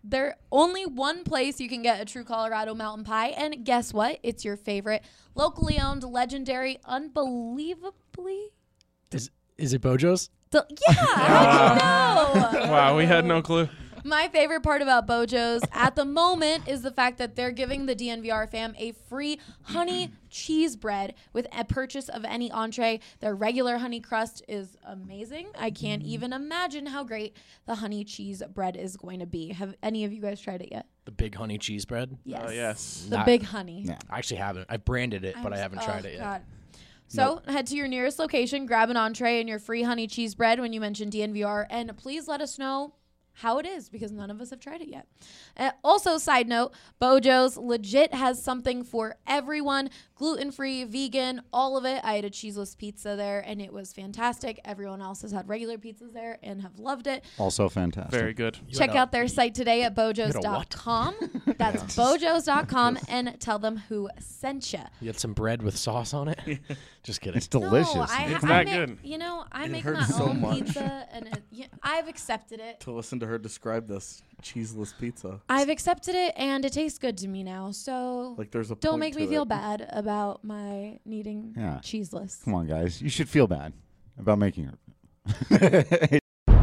There's only one place you can get a true Colorado mountain pie, and guess what? It's your favorite, locally owned, legendary, unbelievably. Is it Bojo's? Yeah, how'd you know? Wow, we had no clue. My favorite part about Bojo's at the moment is the fact that they're giving the DNVR fam a free honey cheese bread with a purchase of any entree. Their regular honey crust is amazing. I can't even imagine how great the honey cheese bread is going to be. Have any of you guys tried it yet? The big honey cheese bread? Yes. Yes. The big honey. Yeah. I actually haven't. I branded it, but I haven't tried it yet. God. So head to your nearest location, grab an entree and your free honey cheese bread when you mention DNVR, and please let us know how it is, because none of us have tried it yet. Also, side note, Bojo's legit has something for everyone. Gluten-free, vegan, all of it. I had a cheeseless pizza there, and it was fantastic. Everyone else has had regular pizzas there and have loved it. Also fantastic. Very good. Check out their site today at bojos.com. That's bojos.com, and tell them who sent you. You had some bread with sauce on it? Just kidding. It's delicious. No, It's I that make, good. You know, I make hurts my so own much. pizza, and I've accepted it. To listen to her describe this cheeseless pizza. I've accepted it, and it tastes good to me now. So Like there's a don't point make to me feel it. bad about my needing Yeah. cheeseless. Come on, guys. You should feel bad about making her.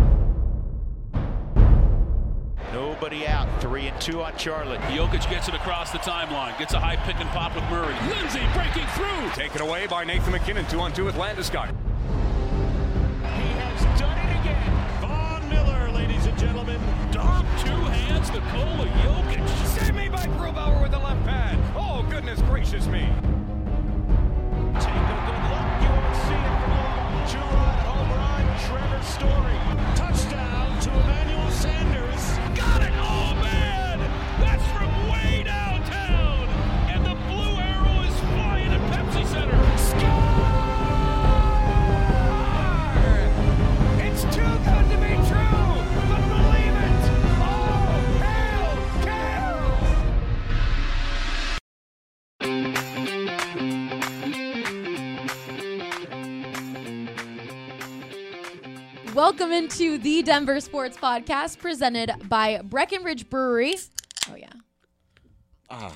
Nobody out. 3-2 on Charlotte. Jokic gets it across the timeline. Gets a high pick and pop with Murray. Lindsay breaking through. Taken away by Nathan McKinnon. 2-on-2 with Landeskog. He has done it again. Von Miller, ladies and gentlemen. Dom, two hands, Nikola Jokic. Save me by Grubauer with the left pad. Oh, goodness gracious me. Take a good look. You won't see it for long. Two-run home run. Trevor Story. Touchdown to Emmanuel Sanders. Got it! Oh, man! That's from way downtown! And the blue arrow is flying at Pepsi Center. It's too good to be true. But believe it. Oh, hail, cow. Welcome into the Denver Sports Podcast presented by Breckenridge Brewery. Oh yeah.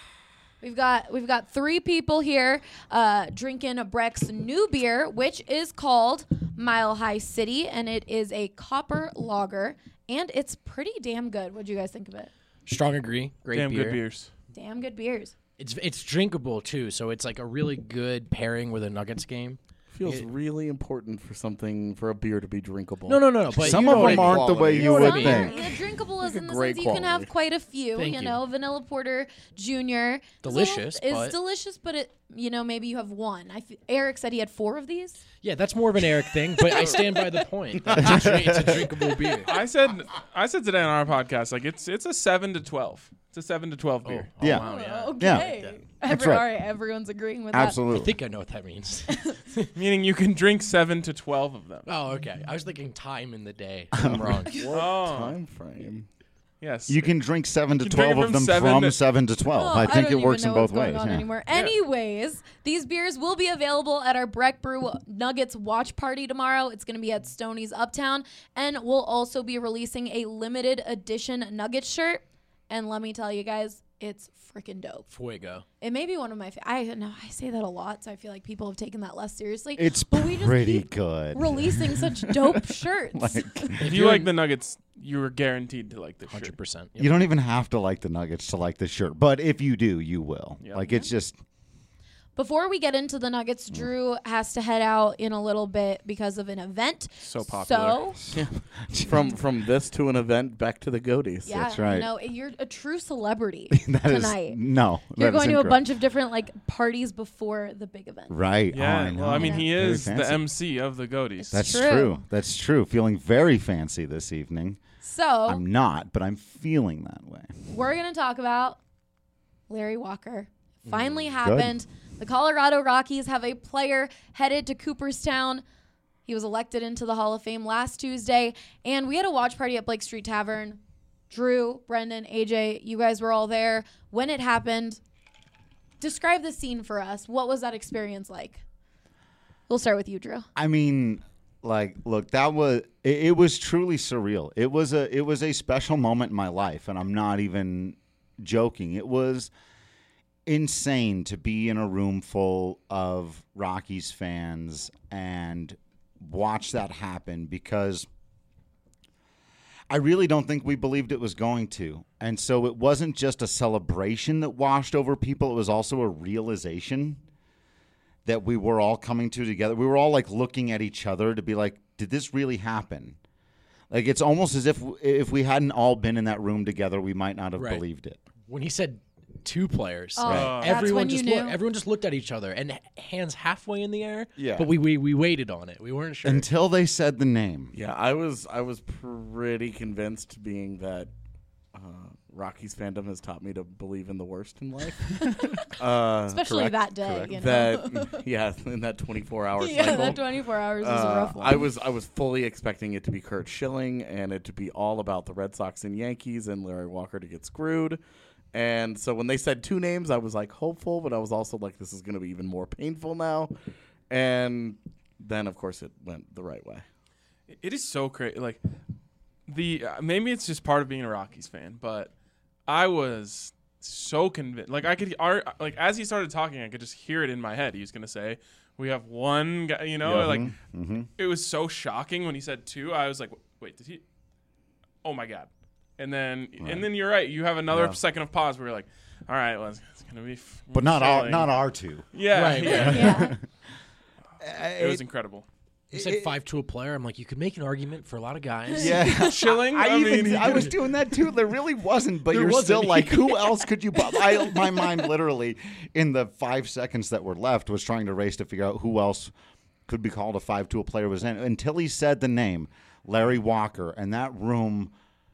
We've got three people here drinking Breck's new beer, which is called Mile High City, and it is a copper lager, and it's pretty damn good. What'd you guys think of it? Strong agree. Great Damn beer. good beers. Damn good beers. It's drinkable, too, so it's like a really good pairing with a Nuggets game. Feels really important for a beer to be drinkable. No. But Some you know of what them I mean. aren't the way You you know what would I mean. think. Yeah, drinkable is Like a in the great sense you can have quality. quite a few. Thank you you. know, Vanilla Porter Junior. Delicious, It's but- delicious, but it maybe you have one. Eric said he had 4 of these. Yeah, that's more of an Eric thing, but I stand by the point. It's a drinkable beer. I said today on our podcast, like it's a 7 to 12. It's a 7 to 12 beer. Yeah. Wow, yeah. Okay. That's right. All right, everyone's agreeing with Absolutely. I think I know what that means. Meaning you can drink 7 to 12 of them. Oh, okay. I was thinking time in the day. I'm wrong. What Oh. time frame? Yes. You can drink 7 to You can drink 12 it of from them 7 from to- 7 to 12. that. I think don't it works even in know both what's going ways. on Yeah. anymore. Anyways, these beers will be available at our Breck Brew Nuggets watch party tomorrow. It's going to be at Stoney's Uptown, and we'll also be releasing a limited edition Nuggets shirt. And let me tell you guys, it's freaking dope. Fuego. It may be one of my I know I say that a lot, so I feel like people have taken that less seriously. It's but we just pretty keep good. releasing such dope shirts. if you like the Nuggets, you are guaranteed to like this shirt. 100%. You don't even have to like the Nuggets to like the shirt, but if you do, you will. Yep. Like it's just Before we get into the Nuggets, Drew has to head out in a little bit because of an event. So popular. So, From this to an event back to the Goaties. yeah, That's right. you know, you're a true celebrity that is tonight. no. You're that is going to a incorrect. bunch of different Parties before the big event. Right. Oh, Yeah. I know. Well, I mean, he Very is the fancy. MC of the Goaties. That's True. true. That's true. Feeling very fancy this evening. So I'm not, but I'm feeling that way. we're going to talk about Larry Walker. Finally happened. The Colorado Rockies have a player headed to Cooperstown. He was elected into the Hall of Fame last Tuesday, and we had a watch party at Blake Street Tavern. Drew, Brendan, AJ, you guys were all there. When it happened, describe the scene for us. What was that experience like? We'll start with you, Drew. I mean, Like, look, that was it was truly surreal. It was a special moment in my life, and I'm not even joking. It was insane to be in a room full of Rockies fans and watch that happen, because I really don't think we believed it was going to. And so it wasn't just a celebration that washed over people. It was also a realization that we were all coming to together. We were all like looking at each other to be like, did this really happen? Like, it's almost as if we hadn't all been in that room together, we might not have Right. believed it. When he said 2 players, That's everyone when you just knew. everyone just looked at each other and hands halfway in the air. Yeah. But we waited on it. We weren't sure. Until they said the name. Yeah, I was pretty convinced, being that Rockies fandom has taught me to believe in the worst in life. Especially correct, that day, correct. you know. That in that 24-hour yeah, cycle. that 24 hours was a rough one. I was fully expecting it to be Curt Schilling and it to be all about the Red Sox and Yankees and Larry Walker to get screwed. And so when they said 2 names, I was like hopeful, but I was also like, this is going to be even more painful now. And then, of course, it went the right way. It is so crazy. Like, maybe it's just part of being a Rockies fan, but I was so convinced. Like, as he started talking, I could just hear it in my head. He was gonna say, "We have one guy," you know. Yeah. Like, Mm-hmm. it was so shocking when he said 2. I was like, "Wait, did he?" Oh my god! And then you're right. You have another second of pause where you're like, "All right, well, it's gonna be." But not Schilling." our 2. Yeah, Right, yeah. yeah. It was incredible. He said 5 to a player. I'm like, you could make an argument for a lot of guys. Yeah. Schilling. I was doing that too. There really wasn't, but There you're wasn't. still like, who else could you? My mind literally, in the 5 seconds that were left, was trying to race to figure out who else could be called a 5 to a player was in, until he said the name Larry Walker, and that room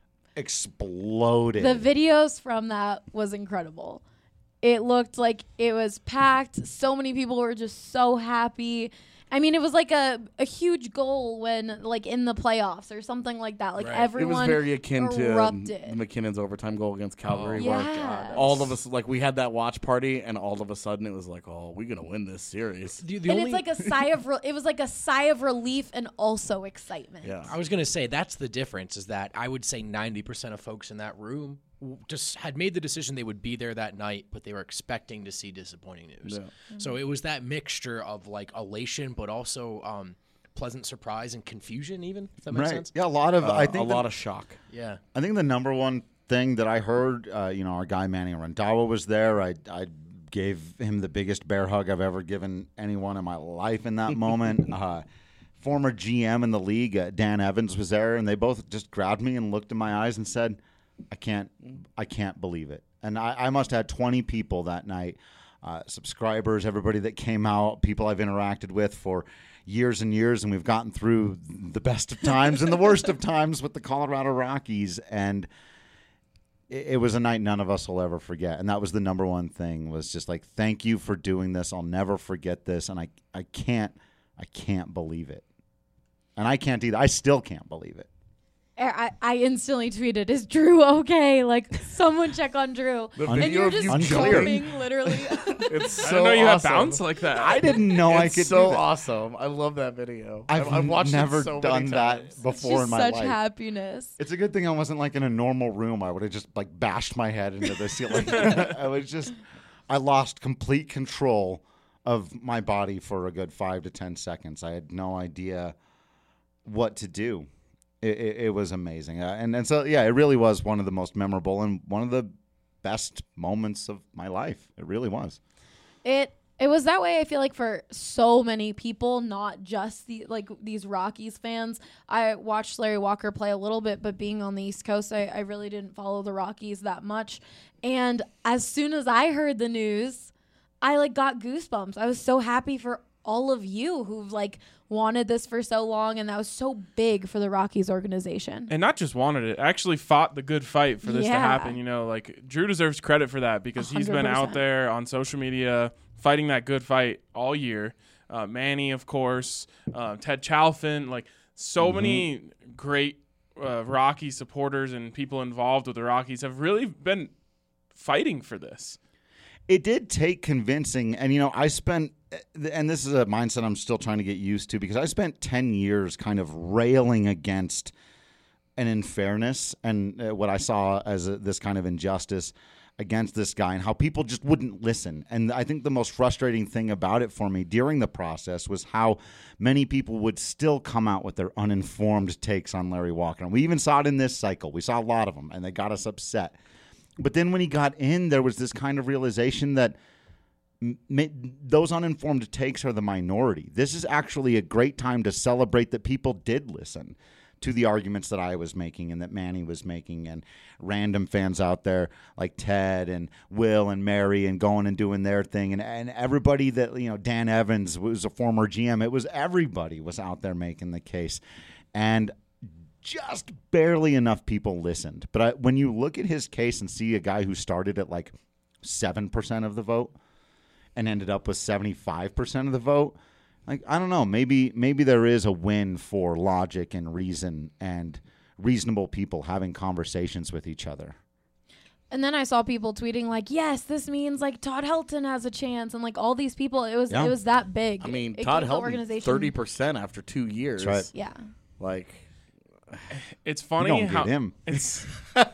exploded. The videos from that was incredible. It looked like it was packed. So many people were just so happy. I mean, it was like a huge goal when, like, in the playoffs or something like that. Like, Right. everyone It was very akin to erupted. McKinnon's overtime goal against Calgary, Yeah. where all of us, like, we had that watch party, and all of a sudden it was like, oh, we're gonna win this series. The And only, it's like a sigh of it was like a sigh of relief and also excitement. Yeah. I was going to say, that's the difference, is that I would say 90% of folks in that room just had made the decision they would be there that night, but they were expecting to see disappointing news. Yeah. So it was that mixture of like elation, but also pleasant surprise and confusion, even, if that makes right? sense. Yeah, a lot of. I a think lot of shock. Yeah. I think the number one thing that I heard, our guy Manny Randhawa was there. I gave him the biggest bear hug I've ever given anyone in my life in that moment. Former GM in the league, Dan Evans, was there, and they both just grabbed me and looked in my eyes and said, I can't believe it. And I must have had 20 people that night, subscribers, everybody that came out, people I've interacted with for years and years, and we've gotten through the best of times and the worst of times with the Colorado Rockies. And it was a night none of us will ever forget. And that was the number one thing, was just like, thank you for doing this. I'll never forget this. And I can't believe it. And I can't either. I still can't believe it. I instantly tweeted, "Is Drew okay? Like, someone check on Drew." The And video you're of just you unclear. jumping, literally. It's so I didn't know you awesome. had bounce like that. I didn't know I It's could so do that. awesome. I love that video. I've watched never it so done many that times. before Just in my such life. happiness. It's a good thing I wasn't like in a normal room. I would have just like bashed my head into the ceiling. I lost complete control of my body for a good 5 to 10 seconds. I had no idea what to do. It was amazing. And so, yeah, it really was one of the most memorable and one of the best moments of my life. It really was. It was that way, I feel like, for so many people, not just these Rockies fans. I watched Larry Walker play a little bit, but being on the East Coast, I really didn't follow the Rockies that much. And as soon as I heard the news, I got goosebumps. I was so happy for all of you who've wanted this for so long, and that was so big for the Rockies organization. And not just wanted it, actually fought the good fight for this to Yeah. happen. Drew deserves credit for that, because he's been 100%. out there on social media fighting that good fight all year. Manny, of course, Ted Chalfin, so many great Rocky supporters and people involved with the Rockies have really been fighting for this. It did take convincing, and I spent and this is a mindset I'm still trying to get used to, because I spent 10 years kind of railing against an unfairness and what I saw as this kind of injustice against this guy, and how people just wouldn't listen. And I think the most frustrating thing about it for me during the process was how many people would still come out with their uninformed takes on Larry Walker. And we even saw it in this cycle. We saw a lot of them, and they got us upset. But then when he got in, there was this kind of realization that those uninformed takes are the minority. This is actually a great time to celebrate that people did listen to the arguments that I was making and that Manny was making, and random fans out there like Ted and Will and Mary and going and doing their thing, and everybody that, Dan Evans was a former GM. It was everybody was out there making the case, and just barely enough people listened. But when you look at his case and see a guy who started at like 7% of the vote and ended up with 75% of the vote, like, I don't know, maybe there is a win for logic and reason and reasonable people having conversations with each other. And then I saw people tweeting like, yes, this means like Todd Helton has a chance, and like all these people, it was that big. I mean, It Todd gave the Helton, organization 30% after 2 years. That's right. Yeah. Like, It's You funny don't how get him. it's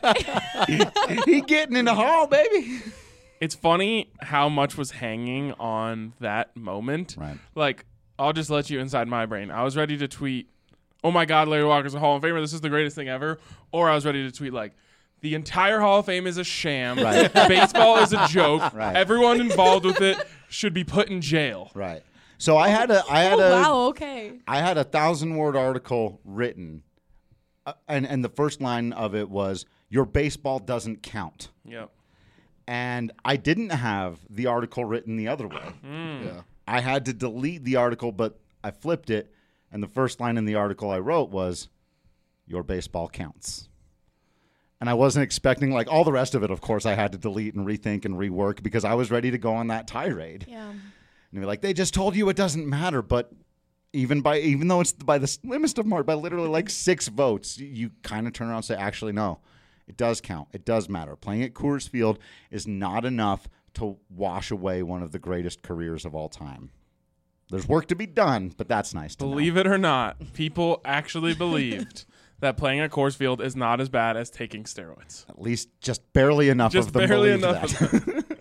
He getting in the hall, baby. it's funny how much was hanging on that moment. Right. Like, I'll just let you inside my brain. I was ready to tweet, "Oh my God, Larry Walker's a Hall of Famer. This is the greatest thing ever." Or I was ready to tweet like, "The entire Hall of Fame is a sham. Right. Baseball is a joke. Right. Everyone involved with it should be put in jail." Right. So I had a Wow. Okay. I had a 1,000-word article written, and the first line of it was, "Your baseball doesn't count." Yep. And I didn't have the article written the other way. yeah. I had to delete the article, but I flipped it, and the first line in the article I wrote was, "Your baseball counts." And I wasn't expecting, like, all the rest of it, of course, I had to delete and rethink and rework, because I was ready to go on that tirade. Yeah. And you're like, they just told you it doesn't matter, but even though it's by the slimmest of margin, by literally like 6 votes, you kind of turn around and say, actually, no, it does count. It does matter. Playing at Coors Field is not enough to wash away one of the greatest careers of all time. There's work to be done, but that's nice to Believe it or not, people actually believed that playing at Coors Field is not as bad as taking steroids. At least just barely enough Just of them barely believed enough that. of them.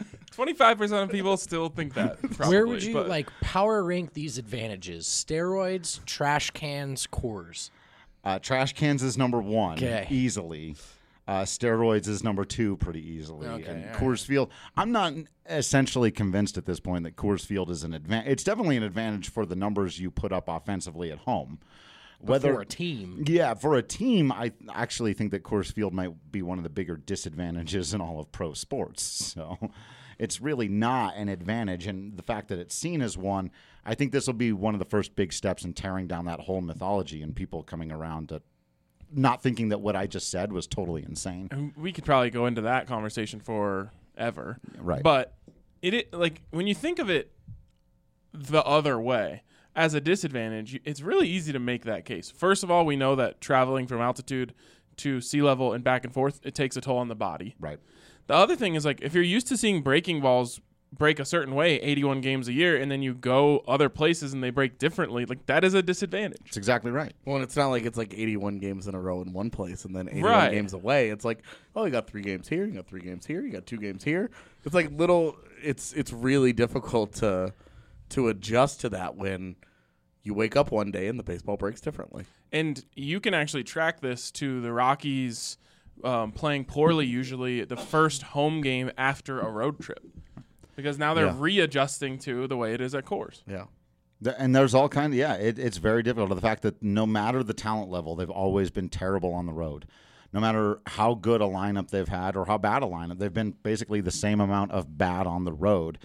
25% of people still think that. Probably, Where would you but power rank these advantages? Steroids, trash cans, Coors. Trash cans is number 1, Okay. easily. Steroids is number 2 pretty easily. Okay, And all right. Coors Field, I'm not essentially convinced at this point that Coors Field is an advantage. It's definitely an advantage for the numbers you put up offensively at home. For a team. Yeah, for a team, I actually think that Coors Field might be one of the bigger disadvantages in all of pro sports. So it's really not an advantage. And the fact that it's seen as one, I think this will be one of the first big steps in tearing down that whole mythology and people coming around to not thinking that what I just said was totally insane. And we could probably go into that conversation forever. Right. But it like when you think of it the other way, as a disadvantage, it's really easy to make that case. First of all, we know that traveling from altitude to sea level and back and forth, it takes a toll on the body. Right. The other thing is, like, if you're used to seeing breaking balls break a certain way 81 games a year, and then you go other places and they break differently, like, that is a disadvantage. That's exactly right. Well, and it's not like it's like 81 games in a row in one place and then 81 Right. games away. It's like, oh, you got 3 games here, you got 3 games here, you got 2 games here. It's like it's really difficult to adjust to that when you wake up one day and the baseball breaks differently. And you can actually track this to the Rockies playing poorly usually the first home game after a road trip. Because now they're Yeah. readjusting to the way it is at Coors. Yeah. And there's all kind of, it's very difficult. The fact that no matter the talent level, they've always been terrible on the road. No matter how good a lineup they've had or how bad a lineup, they've been basically the same amount of bad on the road.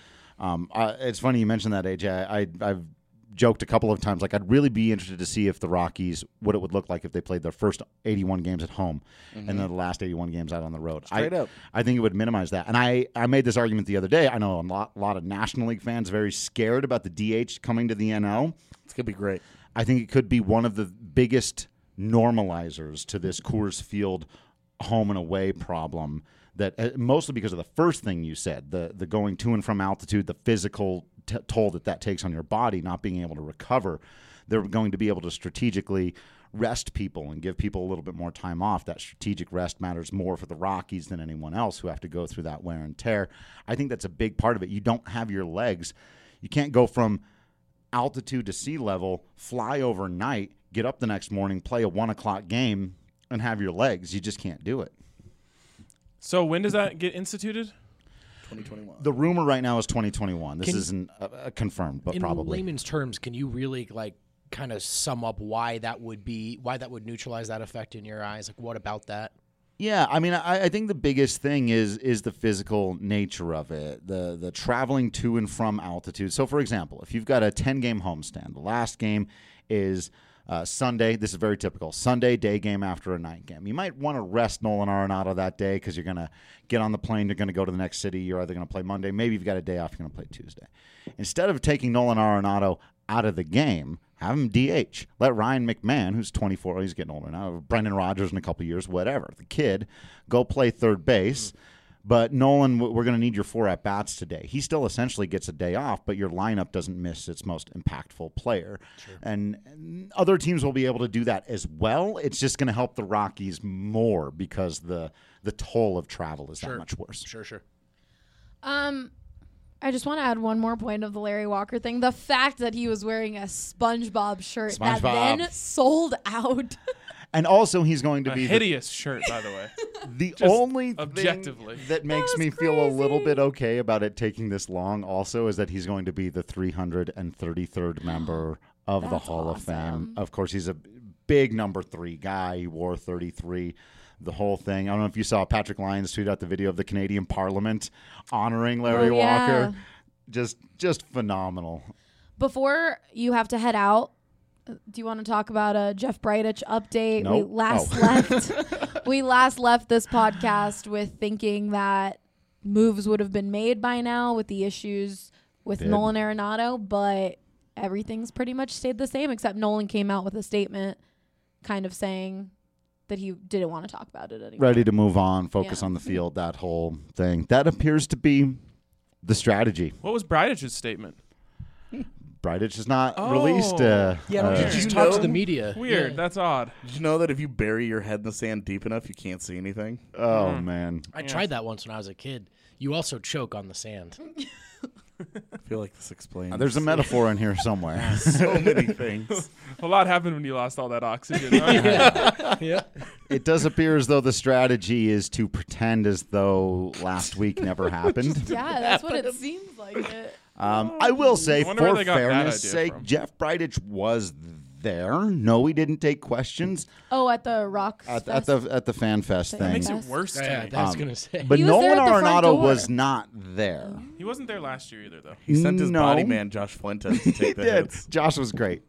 It's funny you mentioned that, AJ. I've joked a couple of times, like, I'd really be interested to see if the Rockies, what it would look like if they played their first 81 games at home and then the last 81 games out on the road. Straight up. I think it would minimize that. And I made this argument the other day. I know a lot of National League fans very scared about the DH coming to the NL. It's going to be great. I think it could be one of the biggest normalizers to this Coors Field home and away problem that mostly because of the first thing you said, the going to and from altitude, the physical toll that takes on your body, not being able to recover. They're going to be able to strategically rest people and give people a little bit more time off. That strategic rest matters more for the Rockies than anyone else who have to go through that wear and tear. I think that's a big part of it. You don't have your legs. You can't go from altitude to sea level, fly overnight, get up the next morning, play a 1 o'clock game, and have your legs. You just can't do it. So when does that get instituted? 2021. The rumor right now is 2021. This Can- isn't confirmed, but In probably. layman's terms, can you really kind of sum up why that would neutralize that effect in your eyes? Like, what about that? Yeah, I mean, I think the biggest thing is the physical nature of it, the traveling to and from altitude. So, for example, if you've got a 10-game homestand, the last game is Sunday. This is very typical. Sunday, day game after a night game. You might want to rest Nolan Arenado that day because you're going to get on the plane. You're going to go to the next city. You're either going to play Monday. Maybe you've got a day off. You're going to play Tuesday. Instead of taking Nolan Arenado out of the game, have him DH. Let Ryan McMahon, who's 24, he's getting older now, Brendan Rodgers in a couple years, whatever, the kid, go play third base. But Nolan, we're going to need your 4 at-bats today. He still essentially gets a day off, but your lineup doesn't miss its most impactful player. Sure. And other teams will be able to do that as well. It's just going to help the Rockies more because the toll of travel is that much worse. Sure. I just want to add one more point of the Larry Walker thing. The fact that he was wearing a SpongeBob shirt that then sold out. And also, he's going to be hideous shirt, by the way. The Just only objectively. thing that makes me feel a little bit okay about it taking this long also is that he's going to be the 333rd member of the Hall of Fame. Of course, he's a big number 3 guy. He wore 33. The whole thing. I don't know if you saw Patrick Lyons tweet out the video of the Canadian Parliament honoring Larry Walker. Just phenomenal. Before you have to head out, do you want to talk about a Jeff Bridich update? Nope. We last left this podcast with thinking that moves would have been made by now with the issues with Nolan Arenado, but everything's pretty much stayed the same except Nolan came out with a statement kind of saying that he didn't want to talk about it anymore. Ready to move on, focus on the field, that whole thing. That appears to be the strategy. What was Bridich's statement? Bridich has not released. Don't you just talk to the media? Weird. Yeah. That's odd. Did you know that if you bury your head in the sand deep enough, you can't see anything? Oh, man. I tried that once when I was a kid. You also choke on the sand. I feel like this explains. There's a metaphor in here somewhere. so many things. A lot happened when you lost all that oxygen. Huh? Yeah. It does appear as though the strategy is to pretend as though last week never happened. Yeah, that's what it seems like. I will say, I wonder where for they got that fairness' idea sake, from. Jeff Bridich was there. No, he didn't take questions Oh, at the Rock at Fest. the Fan Fest That thing. Makes it Yes. worse to Yeah, me. that's gonna say. But He was Nolan there at the front Arenado door. was not there. He wasn't there last year either, though. He sent his No. body man, Josh Fuentes, to take the He did. hits. Josh was great.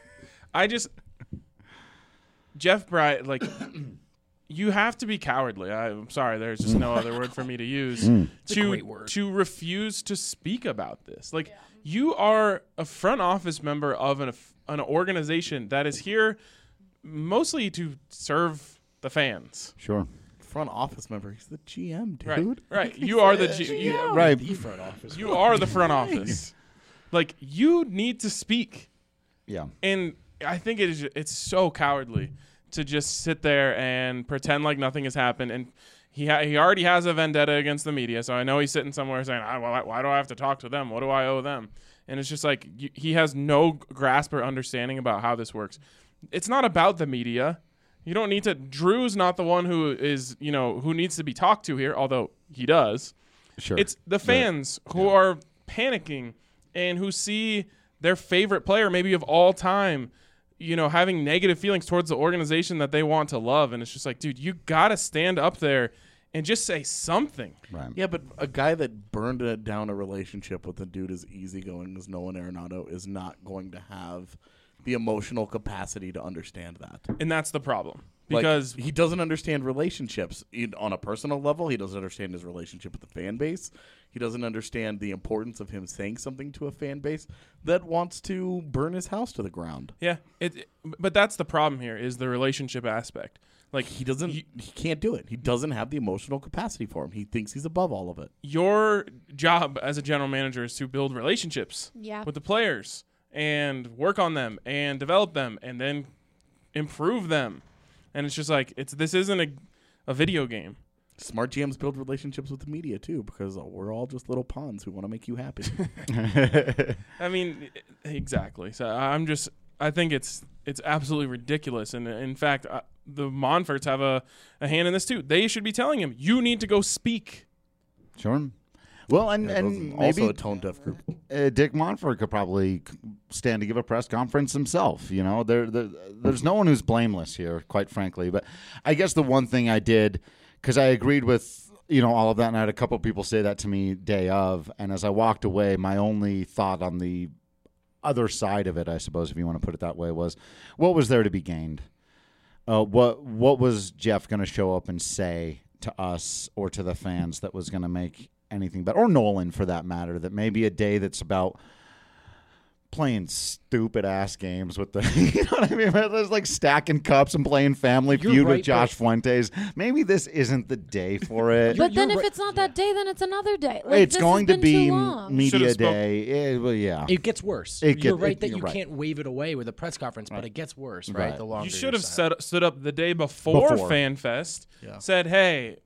Jeff Bridich, like, you have to be cowardly. I'm sorry, there's just no other word for me to use a great word. to refuse to speak about this. Like, you are a front office member of an organization that is here mostly to serve the fans. Sure. Front office member. He's the GM, dude. Right. You are the Right. The front office. you are the front office. Like, you need to speak. Yeah. And I think it's so cowardly to just sit there and pretend like nothing has happened. And he already has a vendetta against the media, so I know he's sitting somewhere saying, why do I have to talk to them? What do I owe them? And it's just like he has no grasp or understanding about how this works. It's not about the media. You don't need to. Drew's not the one who is, who needs to be talked to here, although he does. Sure. It's the fans who are panicking and who see their favorite player, maybe of all time, having negative feelings towards the organization that they want to love. And it's just like, dude, you got to stand up there and just say something. Right. Yeah, but a guy that burned down a relationship with a dude as easygoing as Nolan Arenado is not going to have the emotional capacity to understand that. And that's the problem. Like, Because he doesn't understand relationships on a personal level. He doesn't understand his relationship with the fan base. He doesn't understand the importance of him saying something to a fan base that wants to burn his house to the ground. yeah, but that's the problem here is the relationship aspect. Like He doesn't. He can't do it. He doesn't have the emotional capacity for him. He thinks he's above all of it. your job as a general manager is to build relationships Yeah. with the players and work on them and develop them and then improve them. And it's just like this isn't a video game. Smart GMs build relationships with the media too, because we're all just little pawns who want to make you happy. I mean, exactly. So I think it's absolutely ridiculous. And in fact, the Monforts have a hand in this too. They should be telling him, you need to go speak. Sure. Well, and Those and are maybe also a tone deaf group. Dick Monfort could probably stand to give a press conference himself. You know, there's no one who's blameless here, quite frankly. But I guess the one thing I did, because I agreed with all of that, and I had a couple people say that to me day of, and as I walked away, my only thought on the other side of it, I suppose, if you want to put it that way, was what was there to be gained? What was Jeff going to show up and say to us or to the fans that was going to make anything better, or Nolan for that matter, that maybe a day that's about playing stupid ass games with the you know what I mean? There's like stacking cups and playing Family You're Feud right, with Josh Fuentes. Maybe this isn't the day for it. But then you're if right. it's not that day, then it's another day. Like, It's this going has to been be too long. media Should've spoke- day. Well, yeah. It gets worse. It You're get- right it- that you're you right. can't wave it away with a press conference, but it gets worse, right? Right. The longer You should have silent. stood up the day before Before. FanFest, Yeah. said, hey,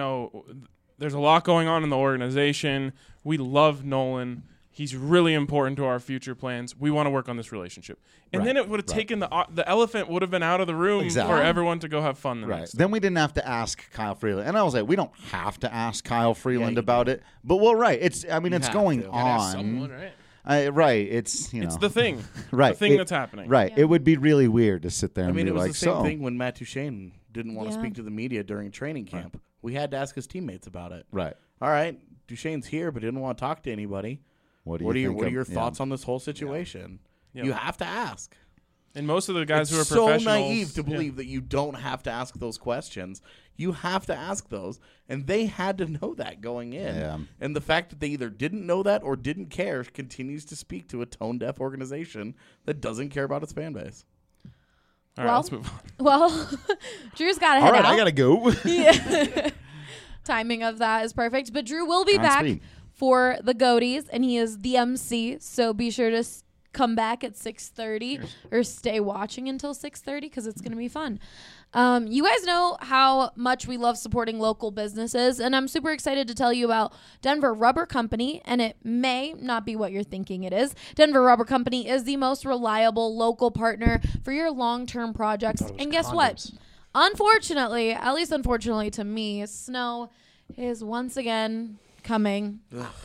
there's a lot going on in the organization. We love Nolan. He's really important to our future plans. We want to work on this relationship. And Right, then it would have right. taken the elephant would have been out of the room Exactly. for everyone to go have fun the Right. next day. Then we didn't have to ask Kyle Freeland. And I was like, we don't have to ask Kyle Freeland you about it. But well, right. It's You it's have going to. You Gotta ask on. someone, right? Right. It's It's the thing. right. The thing It- that's happening. Right. Yeah. It would be really weird to sit there I and mean, be it was like, the same so thing when Matt Duchene didn't want to Yeah. speak to the media during training camp. We had to ask his teammates about it. right. All right, Duchene's here, but didn't want to talk to anybody. What What are think your of- thoughts on this whole situation? Yeah. You have to ask. And most of the guys It's who are so professionals. naive to yeah. believe that you don't have to ask those questions. You have to ask those, and they had to know that going in. Yeah. And the fact that they either didn't know that or didn't care continues to speak to a tone-deaf organization that doesn't care about its fan base. All right, Well- let's move on. Well, Drew's got to head All right, out. I gotta go. Yeah. Timing of that is perfect. But Drew will be On back speed. for the Goaties, and he is the MC. So be sure to come back at 6:30 or stay watching until 6:30 because it's going to be fun. You guys know how much we love supporting local businesses, and I'm super excited to tell you about Denver Rubber Company, and it may not be what you're thinking it is. Denver Rubber Company is the most reliable local partner for your long-term projects. And guess what? condoms. Unfortunately, at least unfortunately to me, snow is once again coming.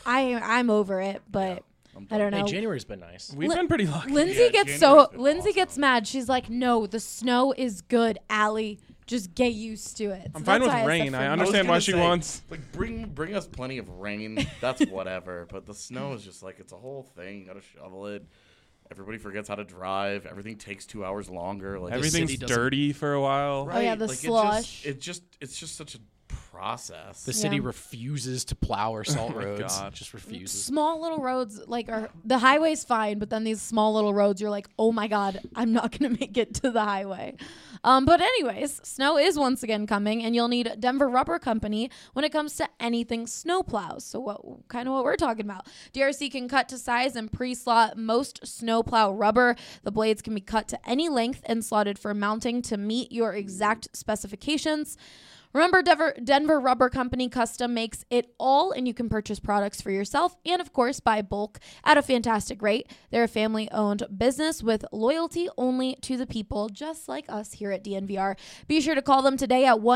I'm over it, but I don't Hey, know. January's been nice. We've Lin- been pretty lucky. Lindsay gets Lindsay gets mad. She's like, "No, the snow is good, Allie. Just get used to it." I'm So fine that's with why said rain. for I me. understand why gonna she say, wants. Like, bring us plenty of rain. That's whatever. But the snow is just like, it's a whole thing. You gotta shovel it. Everybody forgets how to drive. Everything takes 2 hours longer. Like Everything's city doesn't- dirty for a while. Oh, yeah, the like, slush. It's just such a process. The city Yeah. refuses to plow or salt my roads. God. Just refuses. Small little roads, like are the highway's fine, but then these small little roads, you're like, "Oh my god, I'm not gonna make it to the highway." But anyways, snow is once again coming, and you'll need Denver Rubber Company when it comes to anything snow plows. So what we're talking about? DRC can cut to size and pre-slot most snow plow rubber. The blades can be cut to any length and slotted for mounting to meet your exact specifications. Remember, Denver Rubber Company custom makes it all, and you can purchase products for yourself and, of course, buy bulk at a fantastic rate. They're a family-owned business with loyalty only to the people, just like us here at DNVR. Be sure to call them today at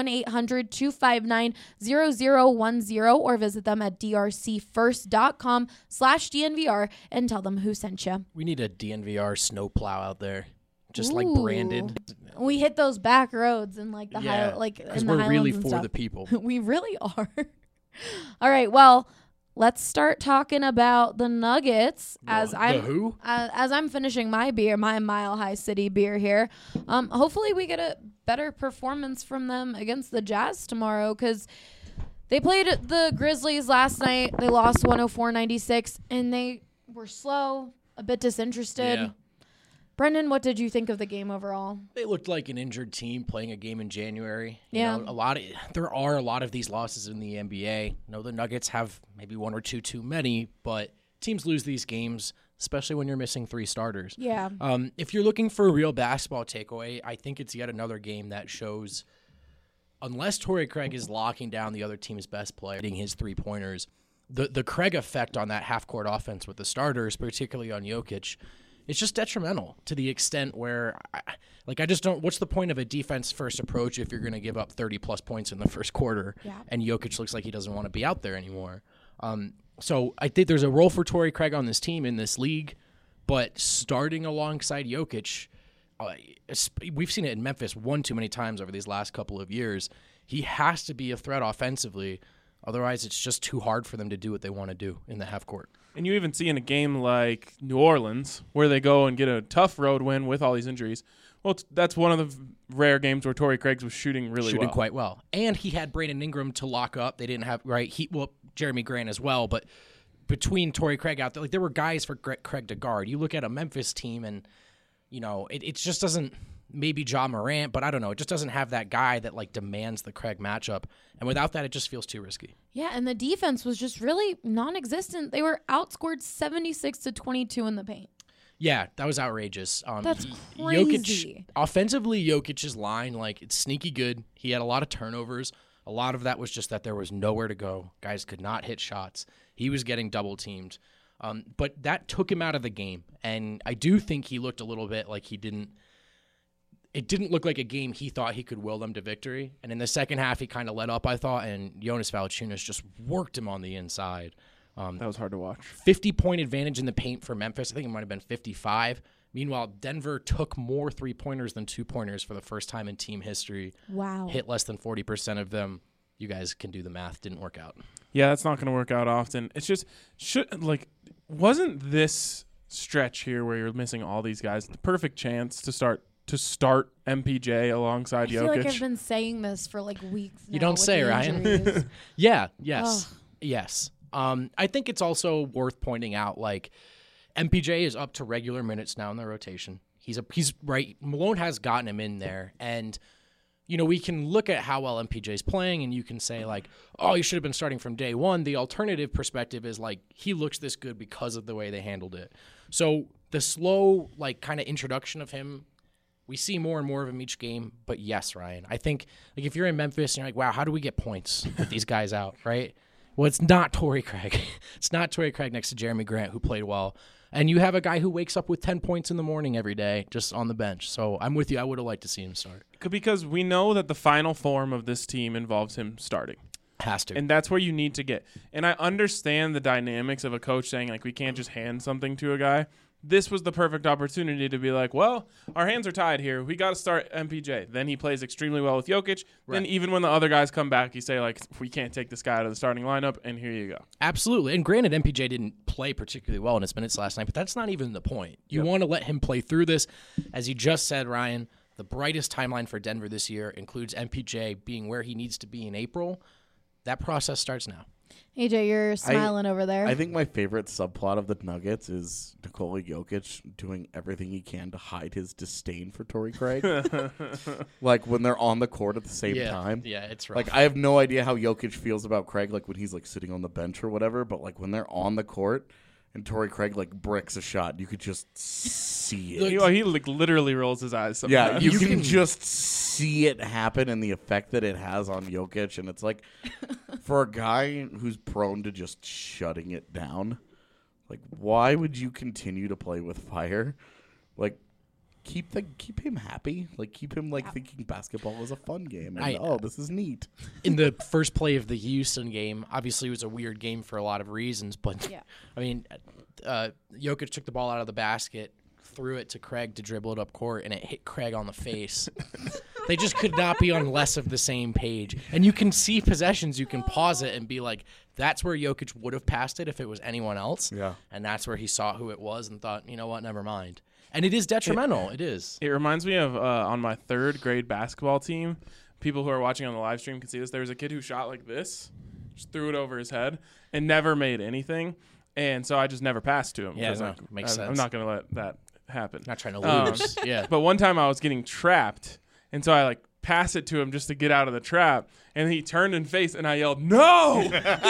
1-800-259-0010 or visit them at drcfirst.com/DNVR and tell them who sent you. We need a DNVR snowplow out there, just like Ooh. branded, We hit those back roads and like the high, like because in the we're really Highlands and for stuff. the people. We really are. All right, well, let's start talking about the Nuggets as I'm who? as I'm finishing my beer, my Mile High City beer here. Hopefully we get a better performance from them against the Jazz tomorrow because they played the Grizzlies last night. They lost 104-96, and they were slow, a bit disinterested. Yeah. Brendan, what did you think of the game overall? They looked like an injured team playing a game in January. Yeah. You know, there are a lot of these losses in the NBA. You know, the Nuggets have maybe one or two too many, but teams lose these games, especially when you're missing 3 starters. Yeah. If you're looking for a real basketball takeaway, I think it's yet another game that shows, unless Torrey Craig is locking down the other team's best player, hitting his 3-pointers, the Craig effect on that half-court offense with the starters, particularly on Jokic, it's just detrimental to the extent where, I just don't. What's the point of a defense-first approach if you're going to give up 30-plus points in the first quarter, and Jokic looks like he doesn't want to be out there anymore? So I think there's a role for Torrey Craig on this team in this league, but starting alongside Jokic, we've seen it in Memphis one too many times over these last couple of years. He has to be a threat offensively. Otherwise, it's just too hard for them to do what they want to do in the half court. And you even see in a game like New Orleans, where they go and get a tough road win with all these injuries. Well, that's one of the rare games where Torrey Craig was shooting quite well. And he had Brandon Ingram to lock up. They didn't have, Jeremy Grant as well. But between Torrey Craig out there, there were guys for Craig to guard. You look at a Memphis team and, it just doesn't, maybe Ja Morant, but I don't know. It just doesn't have that guy that, demands the Craig matchup. And without that, it just feels too risky. Yeah, and the defense was just really non-existent. They were outscored 76-22 in the paint. Yeah, that was outrageous. That's Jokic, crazy. offensively, Jokic's line, it's sneaky good. He had a lot of turnovers. A lot of that was just that there was nowhere to go. Guys could not hit shots. He was getting double-teamed. But that took him out of the game. And I do think he looked a little bit like it didn't look like a game he thought he could will them to victory. And in the second half, he kind of let up, I thought, and Jonas Valanciunas just worked him on the inside. That was hard to watch. 50-point advantage in the paint for Memphis. I think it might have been 55. Meanwhile, Denver took more 3-pointers than 2-pointers for the first time in team history. Wow. Hit less than 40% of them. You guys can do the math. Didn't work out. Yeah, that's not going to work out often. It's just, wasn't this stretch here where you're missing all these guys the perfect chance to start MPJ alongside Jokic? I feel like I've been saying this for weeks now. You don't with say, the Ryan. injuries. Yeah, yes. Ugh. Yes. I think it's also worth pointing out, MPJ is up to regular minutes now in the rotation. He's right. Malone has gotten him in there, and we can look at how well MPJ's playing, and you can say oh, he should have been starting from day one. The alternative perspective is he looks this good because of the way they handled it. So the slow kind of introduction of him, we see more and more of him each game. But yes, Ryan, I think if you're in Memphis and you're wow, how do we get points with these guys out, right? Well, it's not Torrey Craig. It's not Torrey Craig next to Jeremy Grant, who played well. And you have a guy who wakes up with 10 points in the morning every day just on the bench. So I'm with you. I would have liked to see him start. Because we know that the final form of this team involves him starting. Has to. And that's where you need to get. And I understand the dynamics of a coach saying, we can't just hand something to a guy. This was the perfect opportunity to be well, our hands are tied here. We got to start MPJ. Then he plays extremely well with Jokic. Right. Then even when the other guys come back, you say, we can't take this guy out of the starting lineup, and here you go. Absolutely. And granted, MPJ didn't play particularly well in his minutes last night, but that's not even the point. You want to let him play through this. As you just said, Ryan, the brightest timeline for Denver this year includes MPJ being where he needs to be in April. That process starts now. AJ, you're smiling over there. I think my favorite subplot of the Nuggets is Nikola Jokic doing everything he can to hide his disdain for Torrey Craig. When they're on the court at the same time. Yeah, it's rough. I have no idea how Jokic feels about Craig, when he's sitting on the bench or whatever, but when they're on the court and Torrey Craig bricks a shot, you could just see it. He literally rolls his eyes sometimes. Yeah, you can just see it happen and the effect that it has on Jokic, and it's for a guy who's prone to just shutting it down, why would you continue to play with fire? Keep him happy. Keep him thinking basketball is a fun game. And, this is neat. In the first play of the Houston game, obviously it was a weird game for a lot of reasons, but Jokic took the ball out of the basket, threw it to Craig to dribble it up court, and it hit Craig on the face. They just could not be on less of the same page. And you can see possessions, you can pause it and be that's where Jokic would have passed it if it was anyone else. Yeah. And that's where he saw who it was and thought, you know what, never mind. And it is detrimental. It is. It reminds me of on my third grade basketball team, people who are watching on the live stream can see this. There was a kid who shot like this, just threw it over his head, and never made anything. And so I just never passed to him. Yeah, makes sense. I'm not going to let that happen. Not trying to lose. Yeah. But one time I was getting trapped, and so I like pass it to him just to get out of the trap, and he turned and faced, and I yelled, "No!"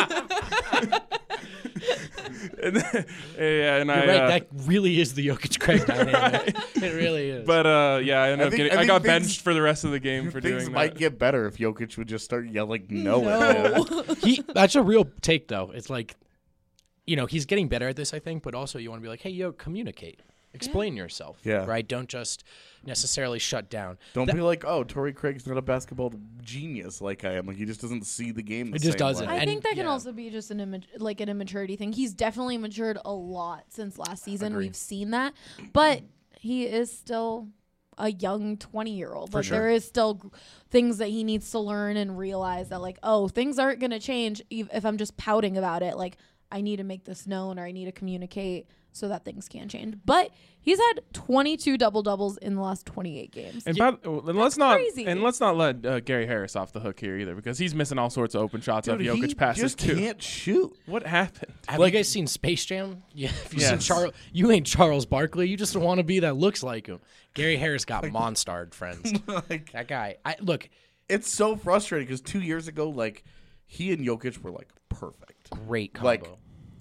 and then, You're right. That really is the Jokic Craig dynamic. It really is. But yeah, I ended up think I got things- benched for the rest of the game for Things doing might that. get better if Jokic would just start yelling no at him. That's a real take, though. It's like, he's getting better at this, I think, but also you want to be like, hey, communicate. Explain yourself. Yeah. Right? Don't just necessarily shut down. Don't be like, oh, Torrey Craig's not a basketball genius like I am. Like, he just doesn't see the game the He just same doesn't. way. I think that can yeah. also be just an an immaturity thing. He's definitely matured a lot since last season. Agreed. We've seen that, but he is still a young 20-year-old. Like sure. there is still things that he needs to learn and realize that like, oh, things aren't going to change if I'm just pouting about it. Like I need to make this known or I need to communicate so that things can change. But he's had 22 double-doubles in the last 28 games. And, let's not crazy. let Gary Harris off the hook here either, because he's missing all sorts of open shots Dude, of Jokic he passes just too. can't shoot. What happened? Have you guys seen Space Jam? Yeah. If you've Yes. seen you ain't Charles Barkley. You just want to be that looks like him. Gary Harris got monstered, friends. Like, That guy. Look, it's so frustrating because 2 years ago, like, he and Jokic were, like, perfect. great combo. Like,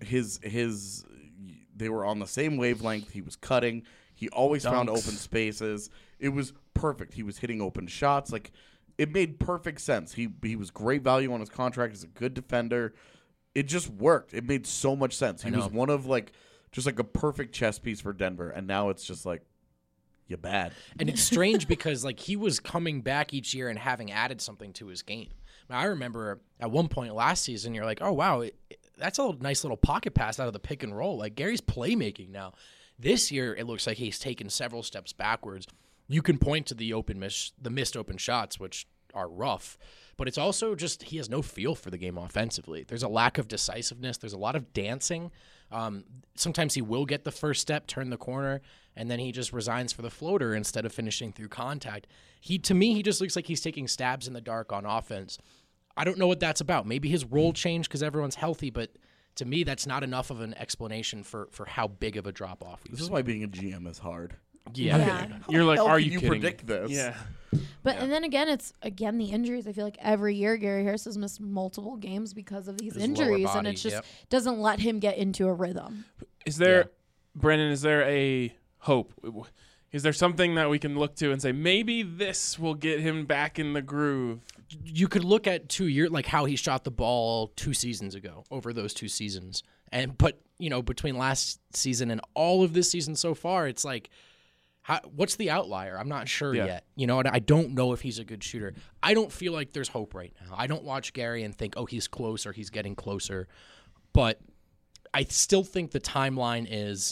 they were on the same wavelength. He was cutting. He always found Dunks. open spaces. It was perfect. He was hitting open shots. Like, it made perfect sense. He was great value on his contract. He's a good defender. It just worked. It made so much sense. He was one of, like, just like a perfect chess piece for Denver. And now it's just like, you're bad. And it's strange because like he was coming back each year and having added something to his game. I remember at one point last season, you're like, oh wow, that's a nice little pocket pass out of the pick and roll. Like Gary's playmaking now. This year, it looks like he's taken several steps backwards. You can point to the missed open shots, which are rough, but it's also just he has no feel for the game offensively. There's a lack of decisiveness. There's a lot of dancing. Sometimes he will get the first step, turn the corner, and then he just resigns for the floater instead of finishing through contact. To me, he just looks like he's taking stabs in the dark on offense. I don't know what that's about. Maybe his role changed because everyone's healthy, but to me, that's not enough of an explanation for how big of a drop-off we've This is seen. why being a GM is hard. Yeah. You're like, How are can you you kidding predict me? this? Yeah. But and then again, it's the injuries. I feel like every year Gary Harris has missed multiple games because of these His lower injuries, and body, it just yep. doesn't let him get into a rhythm. Is there, Yeah. Brennan? Is there a hope? Is there something that we can look to and say maybe this will get him back in the groove? You could look at 2 years, like how he shot the ball 2 seasons ago over those 2 seasons. But between last season and all of this season so far, it's like, what's the outlier? I'm not sure yet. And I don't know if he's a good shooter. I don't feel like there's hope right now. I don't watch Gary and think, oh, he's close or he's getting closer. But I still think the timeline is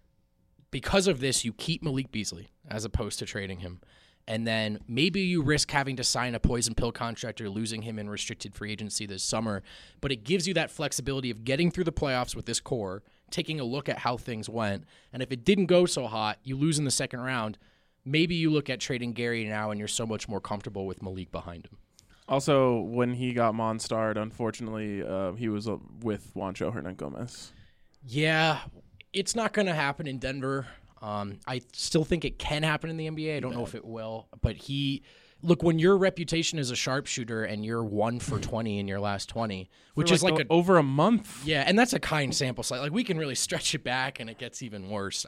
because of this, you keep Malik Beasley as opposed to trading him. And then maybe you risk having to sign a poison pill contract or losing him in restricted free agency this summer. But it gives you that flexibility of getting through the playoffs with this core, taking a look at how things went. And if it didn't go so hot, you lose in the second round. Maybe you look at trading Gary now and you're so much more comfortable with Malik behind him. Also, when he got Monstarred, unfortunately, he was with Juancho Hernangomez. Yeah, it's not going to happen in Denver. I still think it can happen in the NBA. I don't know if it will. But when your reputation is a sharpshooter and you're 1 for 20 in your last 20, which is like over a month. Yeah, and that's a kind sample size. Like we can really stretch it back and it gets even worse.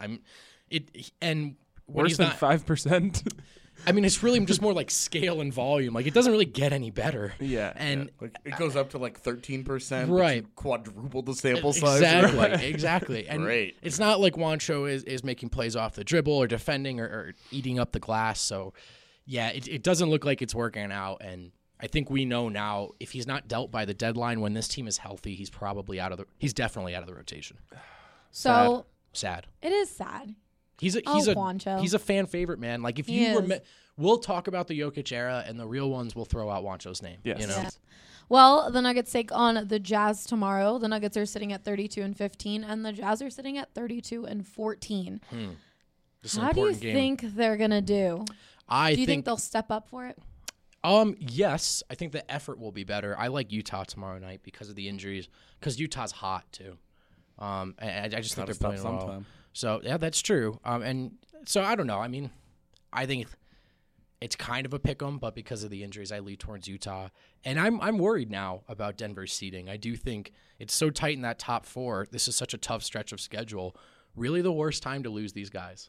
Worse than 5%. I mean, it's really just more like scale and volume. Like, it doesn't really get any better. Yeah. And Like, it goes up to like 13%. Right. But you quadruple the sample size. Exactly. And Great. it's not like Juancho is making plays off the dribble or defending or eating up the glass. So, yeah, it doesn't look like it's working out. And I think we know now if he's not dealt by the deadline when this team is healthy, he's definitely out of the rotation. So Sad. it is sad. He's Juancho. a fan favorite, man. Like if He is. we'll talk about the Jokic era, and the real ones will throw out Juancho's name. Yes. You know? Yeah. Well, the Nuggets take on the Jazz tomorrow. The Nuggets are sitting at 32-15, and the Jazz are sitting at 32-14. This is an How do you important game. think they're gonna do? Do you think they'll step up for it? Yes, I think the effort will be better. I like Utah tomorrow night because of the injuries, because Utah's hot too. And I just think they're playing well. sometime. So yeah, that's true. And So I don't know. I mean, I think it's kind of a pick 'em, but because of the injuries, I lead towards Utah. And I'm worried now about Denver's seeding. I do think it's so tight in that top 4. This is such a tough stretch of schedule. Really the worst time to lose these guys.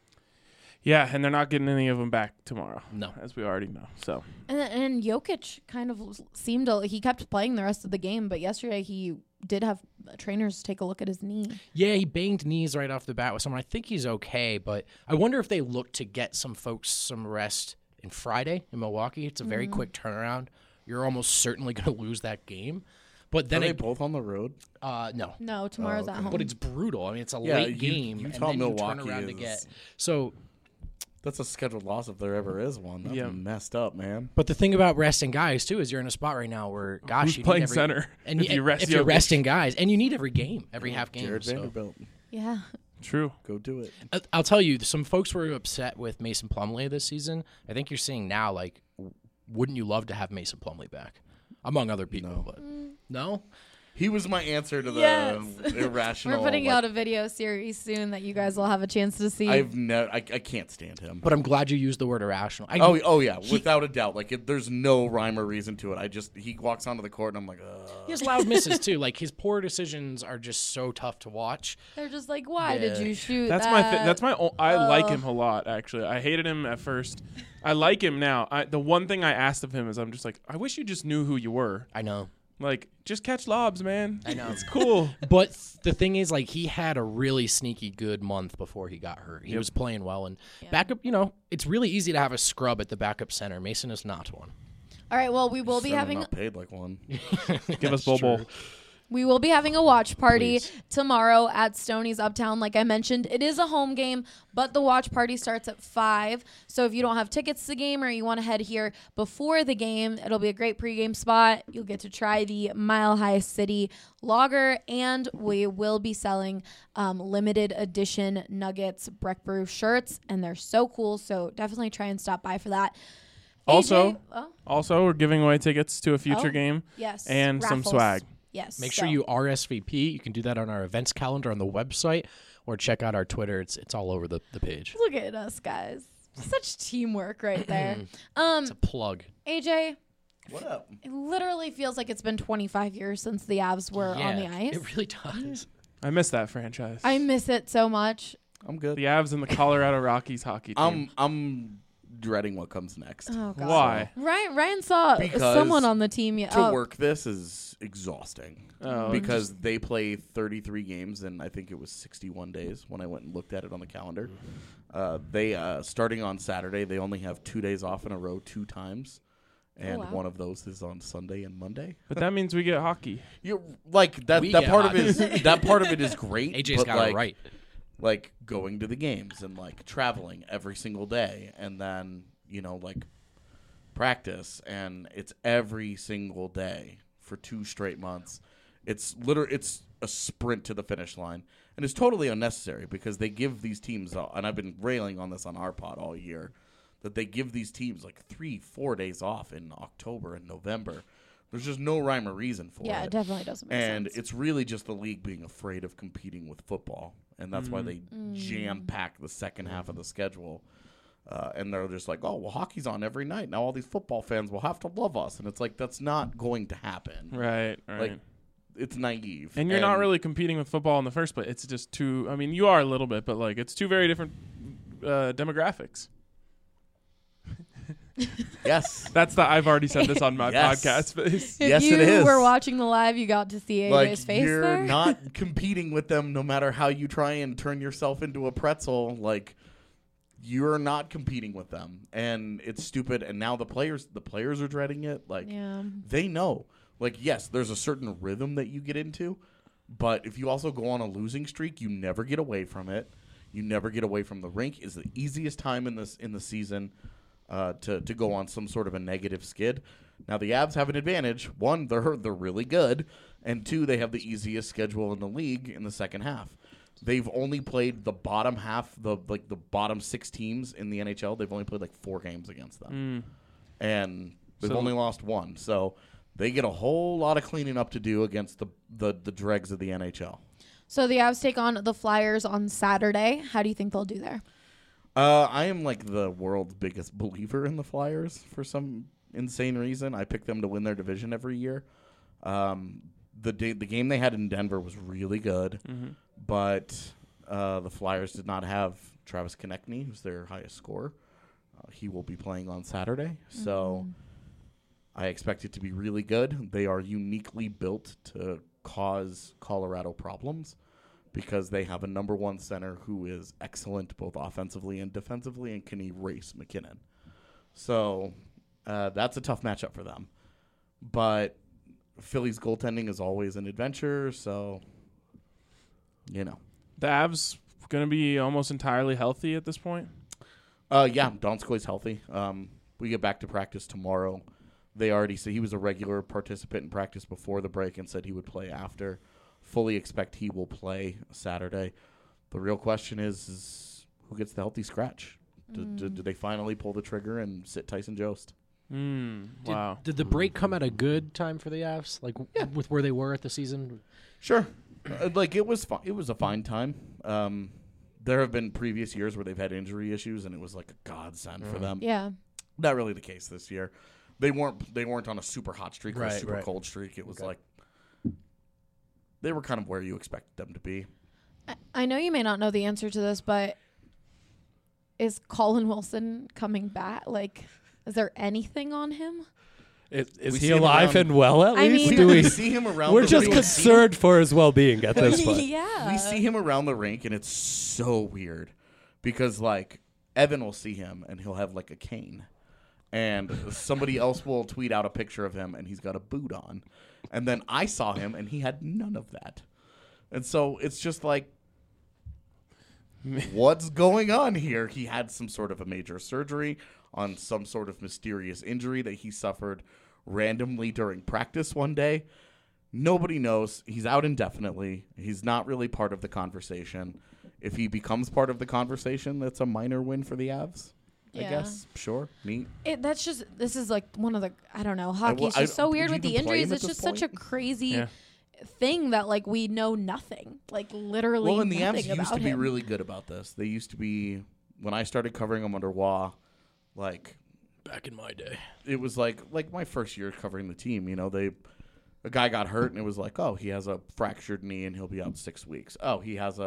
Yeah, and they're not getting any of them back tomorrow. No. As we already know. So And Jokic kind of seemed he kept playing the rest of the game, but yesterday he did have trainers take a look at his knee. Yeah, he banged knees right off the bat with someone. I think he's okay, but I wonder if they look to get some folks some rest in Friday in Milwaukee. It's a very quick turnaround. You're almost certainly going to lose that game. But then Are they both on the road? no. No, tomorrow's at home. But it's brutal. I mean, it's a Yeah, late game, Utah, and then Milwaukee you turn around to is- get. So, That's a scheduled loss if there ever is one. That's Yeah. messed up, man. but the thing about resting guys too is you're in a spot right now where, gosh, Who's you playing need every, center and if you rest if you're Jokic? resting guys, and you need every game, every half game. Jared So. Vanderbilt, Yeah. true. go do it. I'll tell you, some folks were upset with Mason Plumlee this season. I think you're seeing now, like, wouldn't you love to have Mason Plumlee back, among other people? No. But no. He was my answer to the Yes. irrational. We're putting like, out a video series soon that you guys will have a chance to see. I can't stand him. But I'm glad you used the word irrational. Oh yeah, without a doubt. Like there's no rhyme or reason to it. He walks onto the court and I'm like, He has loud misses too. Like his poor decisions are just so tough to watch. They're just like, why did you shoot That's that? I like him a lot, actually. I hated him at first. I like him now. The one thing I asked of him is I'm just like, I wish you just knew who you were. I know. Like, just catch lobs, man. I know. It's cool. But the thing is, like, he had a really sneaky good month before he got hurt. He was playing well. And backup, it's really easy to have a scrub at the backup center. Mason is not one. All right, well, we will be certainly having not paid like one. Give us Bobo. We will be having a watch party Please. tomorrow at Stoney's Uptown. Like I mentioned, it is a home game, but the watch party starts at 5. So if you don't have tickets to the game or you want to head here before the game, it'll be a great pregame spot. You'll get to try the Mile High City lager, and we will be selling limited edition Nuggets Breck Brew shirts, and they're so cool. So definitely try and stop by for that. Also, AJ, we're giving away tickets to a future Oh, game yes, and some raffles. swag. Yes. Make sure you RSVP. You can do that on our events calendar on the website or check out our Twitter. It's all over the page. Look at us, guys. Such teamwork right there. It's a plug. AJ, What up? it literally feels like it's been 25 years since the Avs were on the ice. It really does. I miss that franchise. I miss it so much. I'm good. the Avs and the Colorado Rockies hockey team. I'm dreading what comes next. Oh God. Why? Ryan saw Because someone on the team. To work this is exhausting Oh, because they play 33 games and I think it was 61 days when I went and looked at it on the calendar. They starting on Saturday, they only have 2 days off in a row 2 times. And wow. one of those is on Sunday and Monday. But that means we get hockey. You like that. We That get part of hockey. it is that part of it is great. AJ's but got like, it right. Like going to the games and like traveling every single day, and then like practice, and it's every single day for 2 straight months. It's a sprint to the finish line, and it's totally unnecessary because they give these teams, and I've been railing on this on our pod all year, that they give these teams like 3-4 days off in October and November. There's just no rhyme or reason for Yeah, it. it definitely doesn't make And sense. it's really just the league being afraid of competing with football. And that's why they jam-pack the second half of the schedule. And they're just like, oh, well, hockey's on every night. Now all these football fans will have to love us. And it's like, that's not going to happen. Right. Like, it's naive. And you're not really competing with football in the first place. It's just two. I mean, you are a little bit, but like it's two very different demographics. Yes. That's the. I've already said this on my Yes. podcast face. If Yes, you it is. were watching the live, you got to see AJ's Like, face you're there. not competing with them no matter how you try and turn yourself into a pretzel. Like, you're not competing with them. And it's stupid. And now the players are dreading it. Like, Yeah. they know. Like, yes, there's a certain rhythm that you get into. But if you also go on a losing streak, you never get away from it. You never get away from the rink. Is the easiest time in the season to go on some sort of a negative skid. Now the Avs have an advantage. 1, they're really good, and 2, they have the easiest schedule in the league in the second half. They've only played the bottom half, the bottom 6 teams in the NHL. They've only played like 4 games against them, and they've So- only lost 1. So they get a whole lot of cleaning up to do against the dregs of the NHL. So the Avs take on the Flyers on Saturday. How do you think they'll do there? I am like the world's biggest believer in the Flyers for some insane reason. I pick them to win their division every year. The game they had in Denver was really good, but the Flyers did not have Travis Konechny, who's their highest scorer. He will be playing on Saturday, so I expect it to be really good. They are uniquely built to cause Colorado problems because they have a number one center who is excellent both offensively and defensively and can erase McKinnon. So that's a tough matchup for them. But Philly's goaltending is always an adventure, so, you know. The Avs going to be almost entirely healthy at this point? Yeah, Donskoy's healthy. We get back to practice tomorrow. They already said he was a regular participant in practice before the break and said he would play after. Fully expect he will play Saturday. The real question is who gets the healthy scratch? Do they finally pull the trigger and sit Tyson Jost? Wow. Did the break come at a good time for the Avs? Like with where they were at the season? Sure. It was it was a fine time. There have been previous years where they've had injury issues, and it was like a godsend for them. Yeah. Not really the case this year. They weren't on a super hot streak or a super cold streak. It was like they were kind of where you expected them to be. I know you may not know the answer to this, but is Colin Wilson coming back? Like, is there anything on him? Is We he see him alive around- and well at I least? mean- Do We we? see him around. We're the just rink. concerned for his well-being at this point. Yeah. We see him around the rink, and it's so weird because, like, Evan will see him, and he'll have, like, a cane. And somebody else will tweet out a picture of him, and he's got a boot on. And then I saw him, and he had none of that. And so it's just like, what's going on here? He had some sort of a major surgery on some sort of mysterious injury that he suffered randomly during practice one day. Nobody knows. He's out indefinitely. He's not really part of the conversation. If he becomes part of the conversation, that's a minor win for the Avs. I Yeah. guess. Sure. Neat. This is like one of the, I don't know, hockey's just so would weird you with the even play injuries. him at It's this just such a point? crazy thing that, like, we know nothing. Like, literally Well, and the nothing Avs used about to be him. really good about this. They used to be, when I started covering them under Waugh, like, Back in my day. it was like my first year covering the team. You know, a guy got hurt, and it was like, oh, he has a fractured knee, and he'll be out 6 weeks. Oh, he has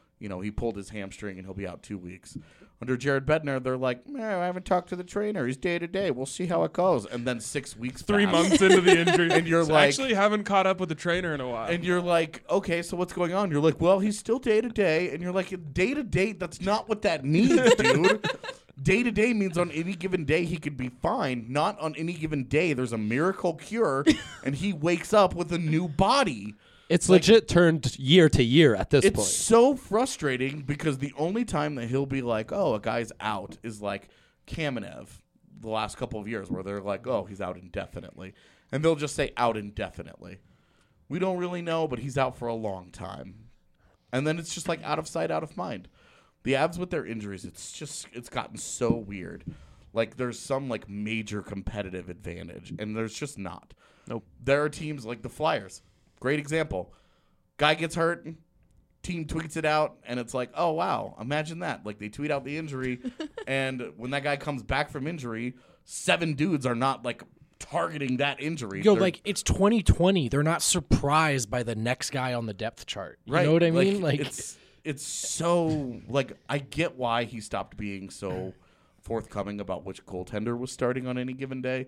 he pulled his hamstring, and he'll be out 2 weeks. Under Jared Bednar, they're like, I haven't talked to the trainer. He's day to day. We'll see how it goes. And then 6 weeks 3 pass. months into the injury. And you're So like- actually haven't caught up with the trainer in a while. And you're like, okay, so what's going on? You're like, well, he's still day to day. And you're like, day to day, that's not what that means, dude. Day to day means on any given day he could be fine. Not on any given day there's a miracle cure and he wakes up with a new body. It's legit turned year to year at this It's point. so frustrating because the only time that he'll be like, oh, a guy's out is like Kamenev the last couple of years where they're like, oh, he's out indefinitely. And they'll just say out indefinitely. We don't really know, but he's out for a long time. And then it's just like out of sight, out of mind. The Avs with their injuries, it's gotten so weird. Like there's some like major competitive advantage, and there's just not. Nope. There are teams like the Flyers. Great example. Guy gets hurt, team tweets it out, and it's like, oh, wow, imagine that. Like, they tweet out the injury, and when that guy comes back from injury, 7 dudes are not, like, targeting that injury. Yo, They're- like, it's 2020. They're not surprised by the next guy on the depth chart. You right. know what I mean? Like, it's so, like, I get why he stopped being so forthcoming about which goaltender was starting on any given day.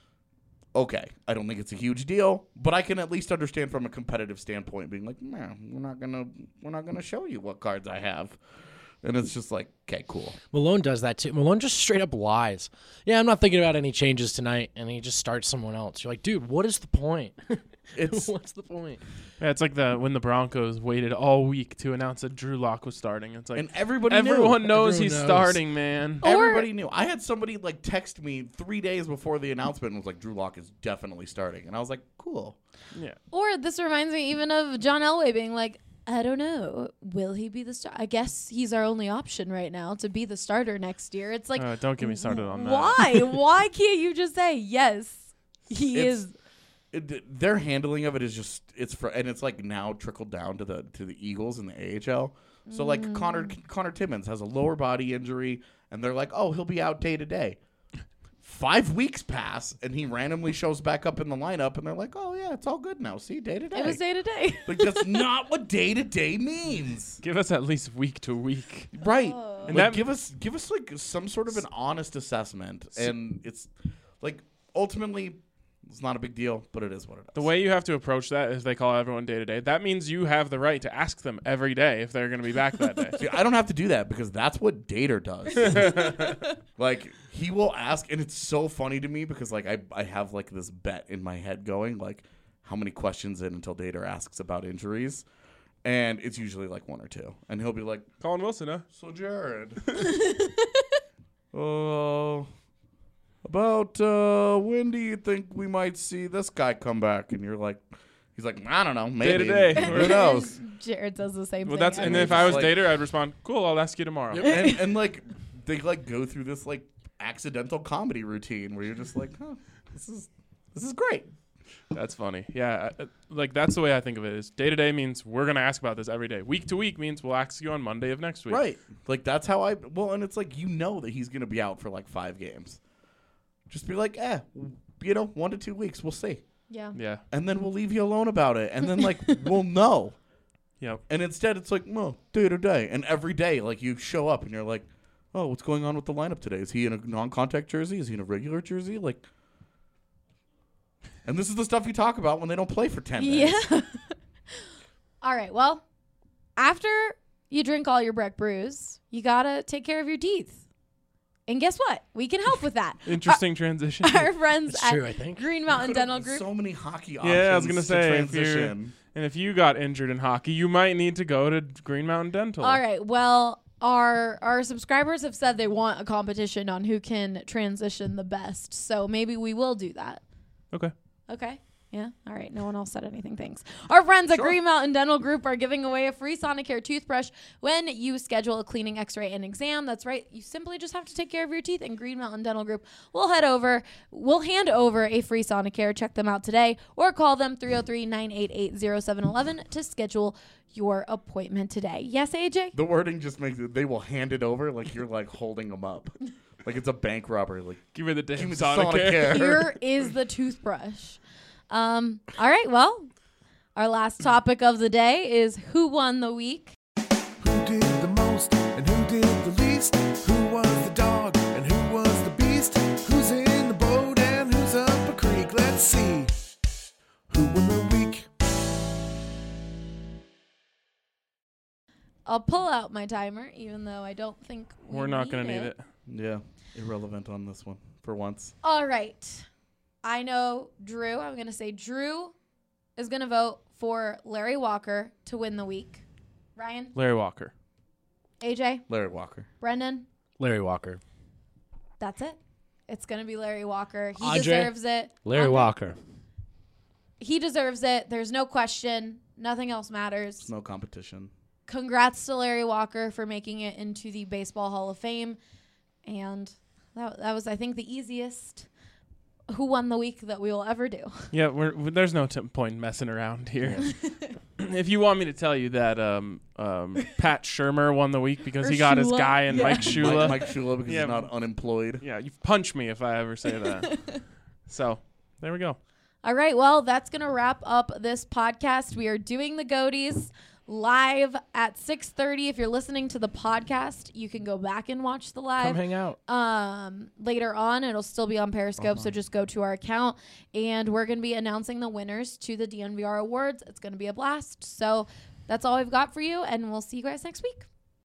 Okay, I don't think it's a huge deal, but I can at least understand from a competitive standpoint, being like, man, we're not gonna show you what cards I have, and it's just like, okay, cool. Malone does that too. Malone just straight up lies. Yeah, I'm not thinking about any changes tonight, and he just starts someone else. You're like, dude, what is the point? It's What's the point? Yeah, it's like when the Broncos waited all week to announce that Drew Lock was starting. It's like and everybody everyone knew. knows Everyone he's knows. starting, man. Everybody knew. I had somebody like text me 3 days before the announcement and was like, Drew Lock is definitely starting, and I was like, cool. Yeah. Or this reminds me even of John Elway being like, I don't know, will he be the star? I guess he's our only option right now to be the starter next year. It's like, Don't get me started on that. why? Why can't you just say yes? He It's- is. their handling of it is just and it's like now trickled down to the Eagles and the AHL. So like Connor Timmins has a lower body injury, and they're like, oh, he'll be out day to day. 5 weeks pass, and he randomly shows back up in the lineup, and they're like, oh yeah, it's all good now. See, day to day. It was day to day. Like that's not what day to day means. Give us at least week to week. Right. Oh. And Like, give us like some sort of an honest assessment. And it's like ultimately it's not a big deal, but it is what it is. The way you have to approach that is they call everyone day to day. That means you have the right to ask them every day if they're going to be back that day. See, I don't have to do that because that's what Dater does. Like he will ask, and it's so funny to me because like I have like this bet in my head going like how many questions in until Dater asks about injuries. And it's usually like 1 or 2. And he'll be like, Colin Wilson, huh? so Jared. About when do you think we might see this guy come back? And you're like, he's like, I don't know, maybe. Day to day. Who knows? Jared does the same Well, thing. that's and every if I was Like- Dater, I'd respond, cool, I'll ask you tomorrow. and like they like go through this like accidental comedy routine where you're just like, huh, this is great. That's funny. Yeah, like that's the way I think of it. Is day to day means we're gonna ask about this every day. Week to week means we'll ask you on Monday of next week. Right. Like that's how and it's like that he's gonna be out for like 5 games. Just be like, 1 to 2 weeks, we'll see. Yeah. Yeah. And then we'll leave you alone about it. And then like we'll know. Yep. And instead it's like, well, day to day. And every day, like you show up and you're like, oh, what's going on with the lineup today? Is he in a non-contact jersey? Is he in a regular jersey? Like, and this is the stuff you talk about when they don't play for 10 days. Yeah. All right. Well, after you drink all your Breck brews, you got to take care of your teeth. And guess what? We can help with that. Interesting transition. Our friends It's at true, I think. Green Mountain Dental Group. So many hockey options. Yeah, I was gonna to say if transition. and if you got injured in hockey, you might need to go to Green Mountain Dental. All right. Well, our subscribers have said they want a competition on who can transition the best. So maybe we will do that. Okay. Okay. Yeah. All right. No one else said anything. Thanks. Our friends at Green Mountain Dental Group are giving away a free Sonicare toothbrush when you schedule a cleaning, x-ray, and exam. That's right. You simply just have to take care of your teeth, and Green Mountain Dental Group will hand over a free Sonicare. Check them out today or call them 303-988-0711 to schedule your appointment today. Yes, AJ? The wording just makes it, they will hand it over like you're like holding them up. Like it's a bank robbery. Like, Give me the damn give me the Sonicare. Sonicare. Here is the toothbrush. All right. Well, our last topic of the day is who won the week. Who did the most and who did the least? Who was the dog and who was the beast? Who's in the boat and who's up a creek? Let's see. Who won the week? I'll pull out my timer, even though I don't think We're not gonna need it. Yeah, irrelevant on this one for once. All right. I know Drew. I'm going to say Drew is going to vote for Larry Walker to win the week. Ryan? Larry Walker. AJ? Larry Walker. Brendan? Larry Walker. That's it. It's going to be Larry Walker. He Andre? deserves it. Larry Andre? Walker. He deserves it. There's no question. Nothing else matters. No competition. Congrats to Larry Walker for making it into the Baseball Hall of Fame. And that was, I think, the easiest who won the week that we will ever do. Yeah, there's no point messing around here. If you want me to tell you that Pat Shermer won the week because he got his Shula. guy and Yeah. Mike Shula. Mike Shula because Yeah. he's not unemployed. Yeah, you punch me if I ever say that. So, there we go. All right. Well, that's going to wrap up this podcast. We are doing the Goaties live at 6:30. If you're listening to the podcast, you can go back and watch the live. Come hang out. Later on, it'll still be on Periscope, so just go to our account, and we're going to be announcing the winners to the DNVR Awards. It's going to be a blast. So that's all we've got for you, and we'll see you guys next week.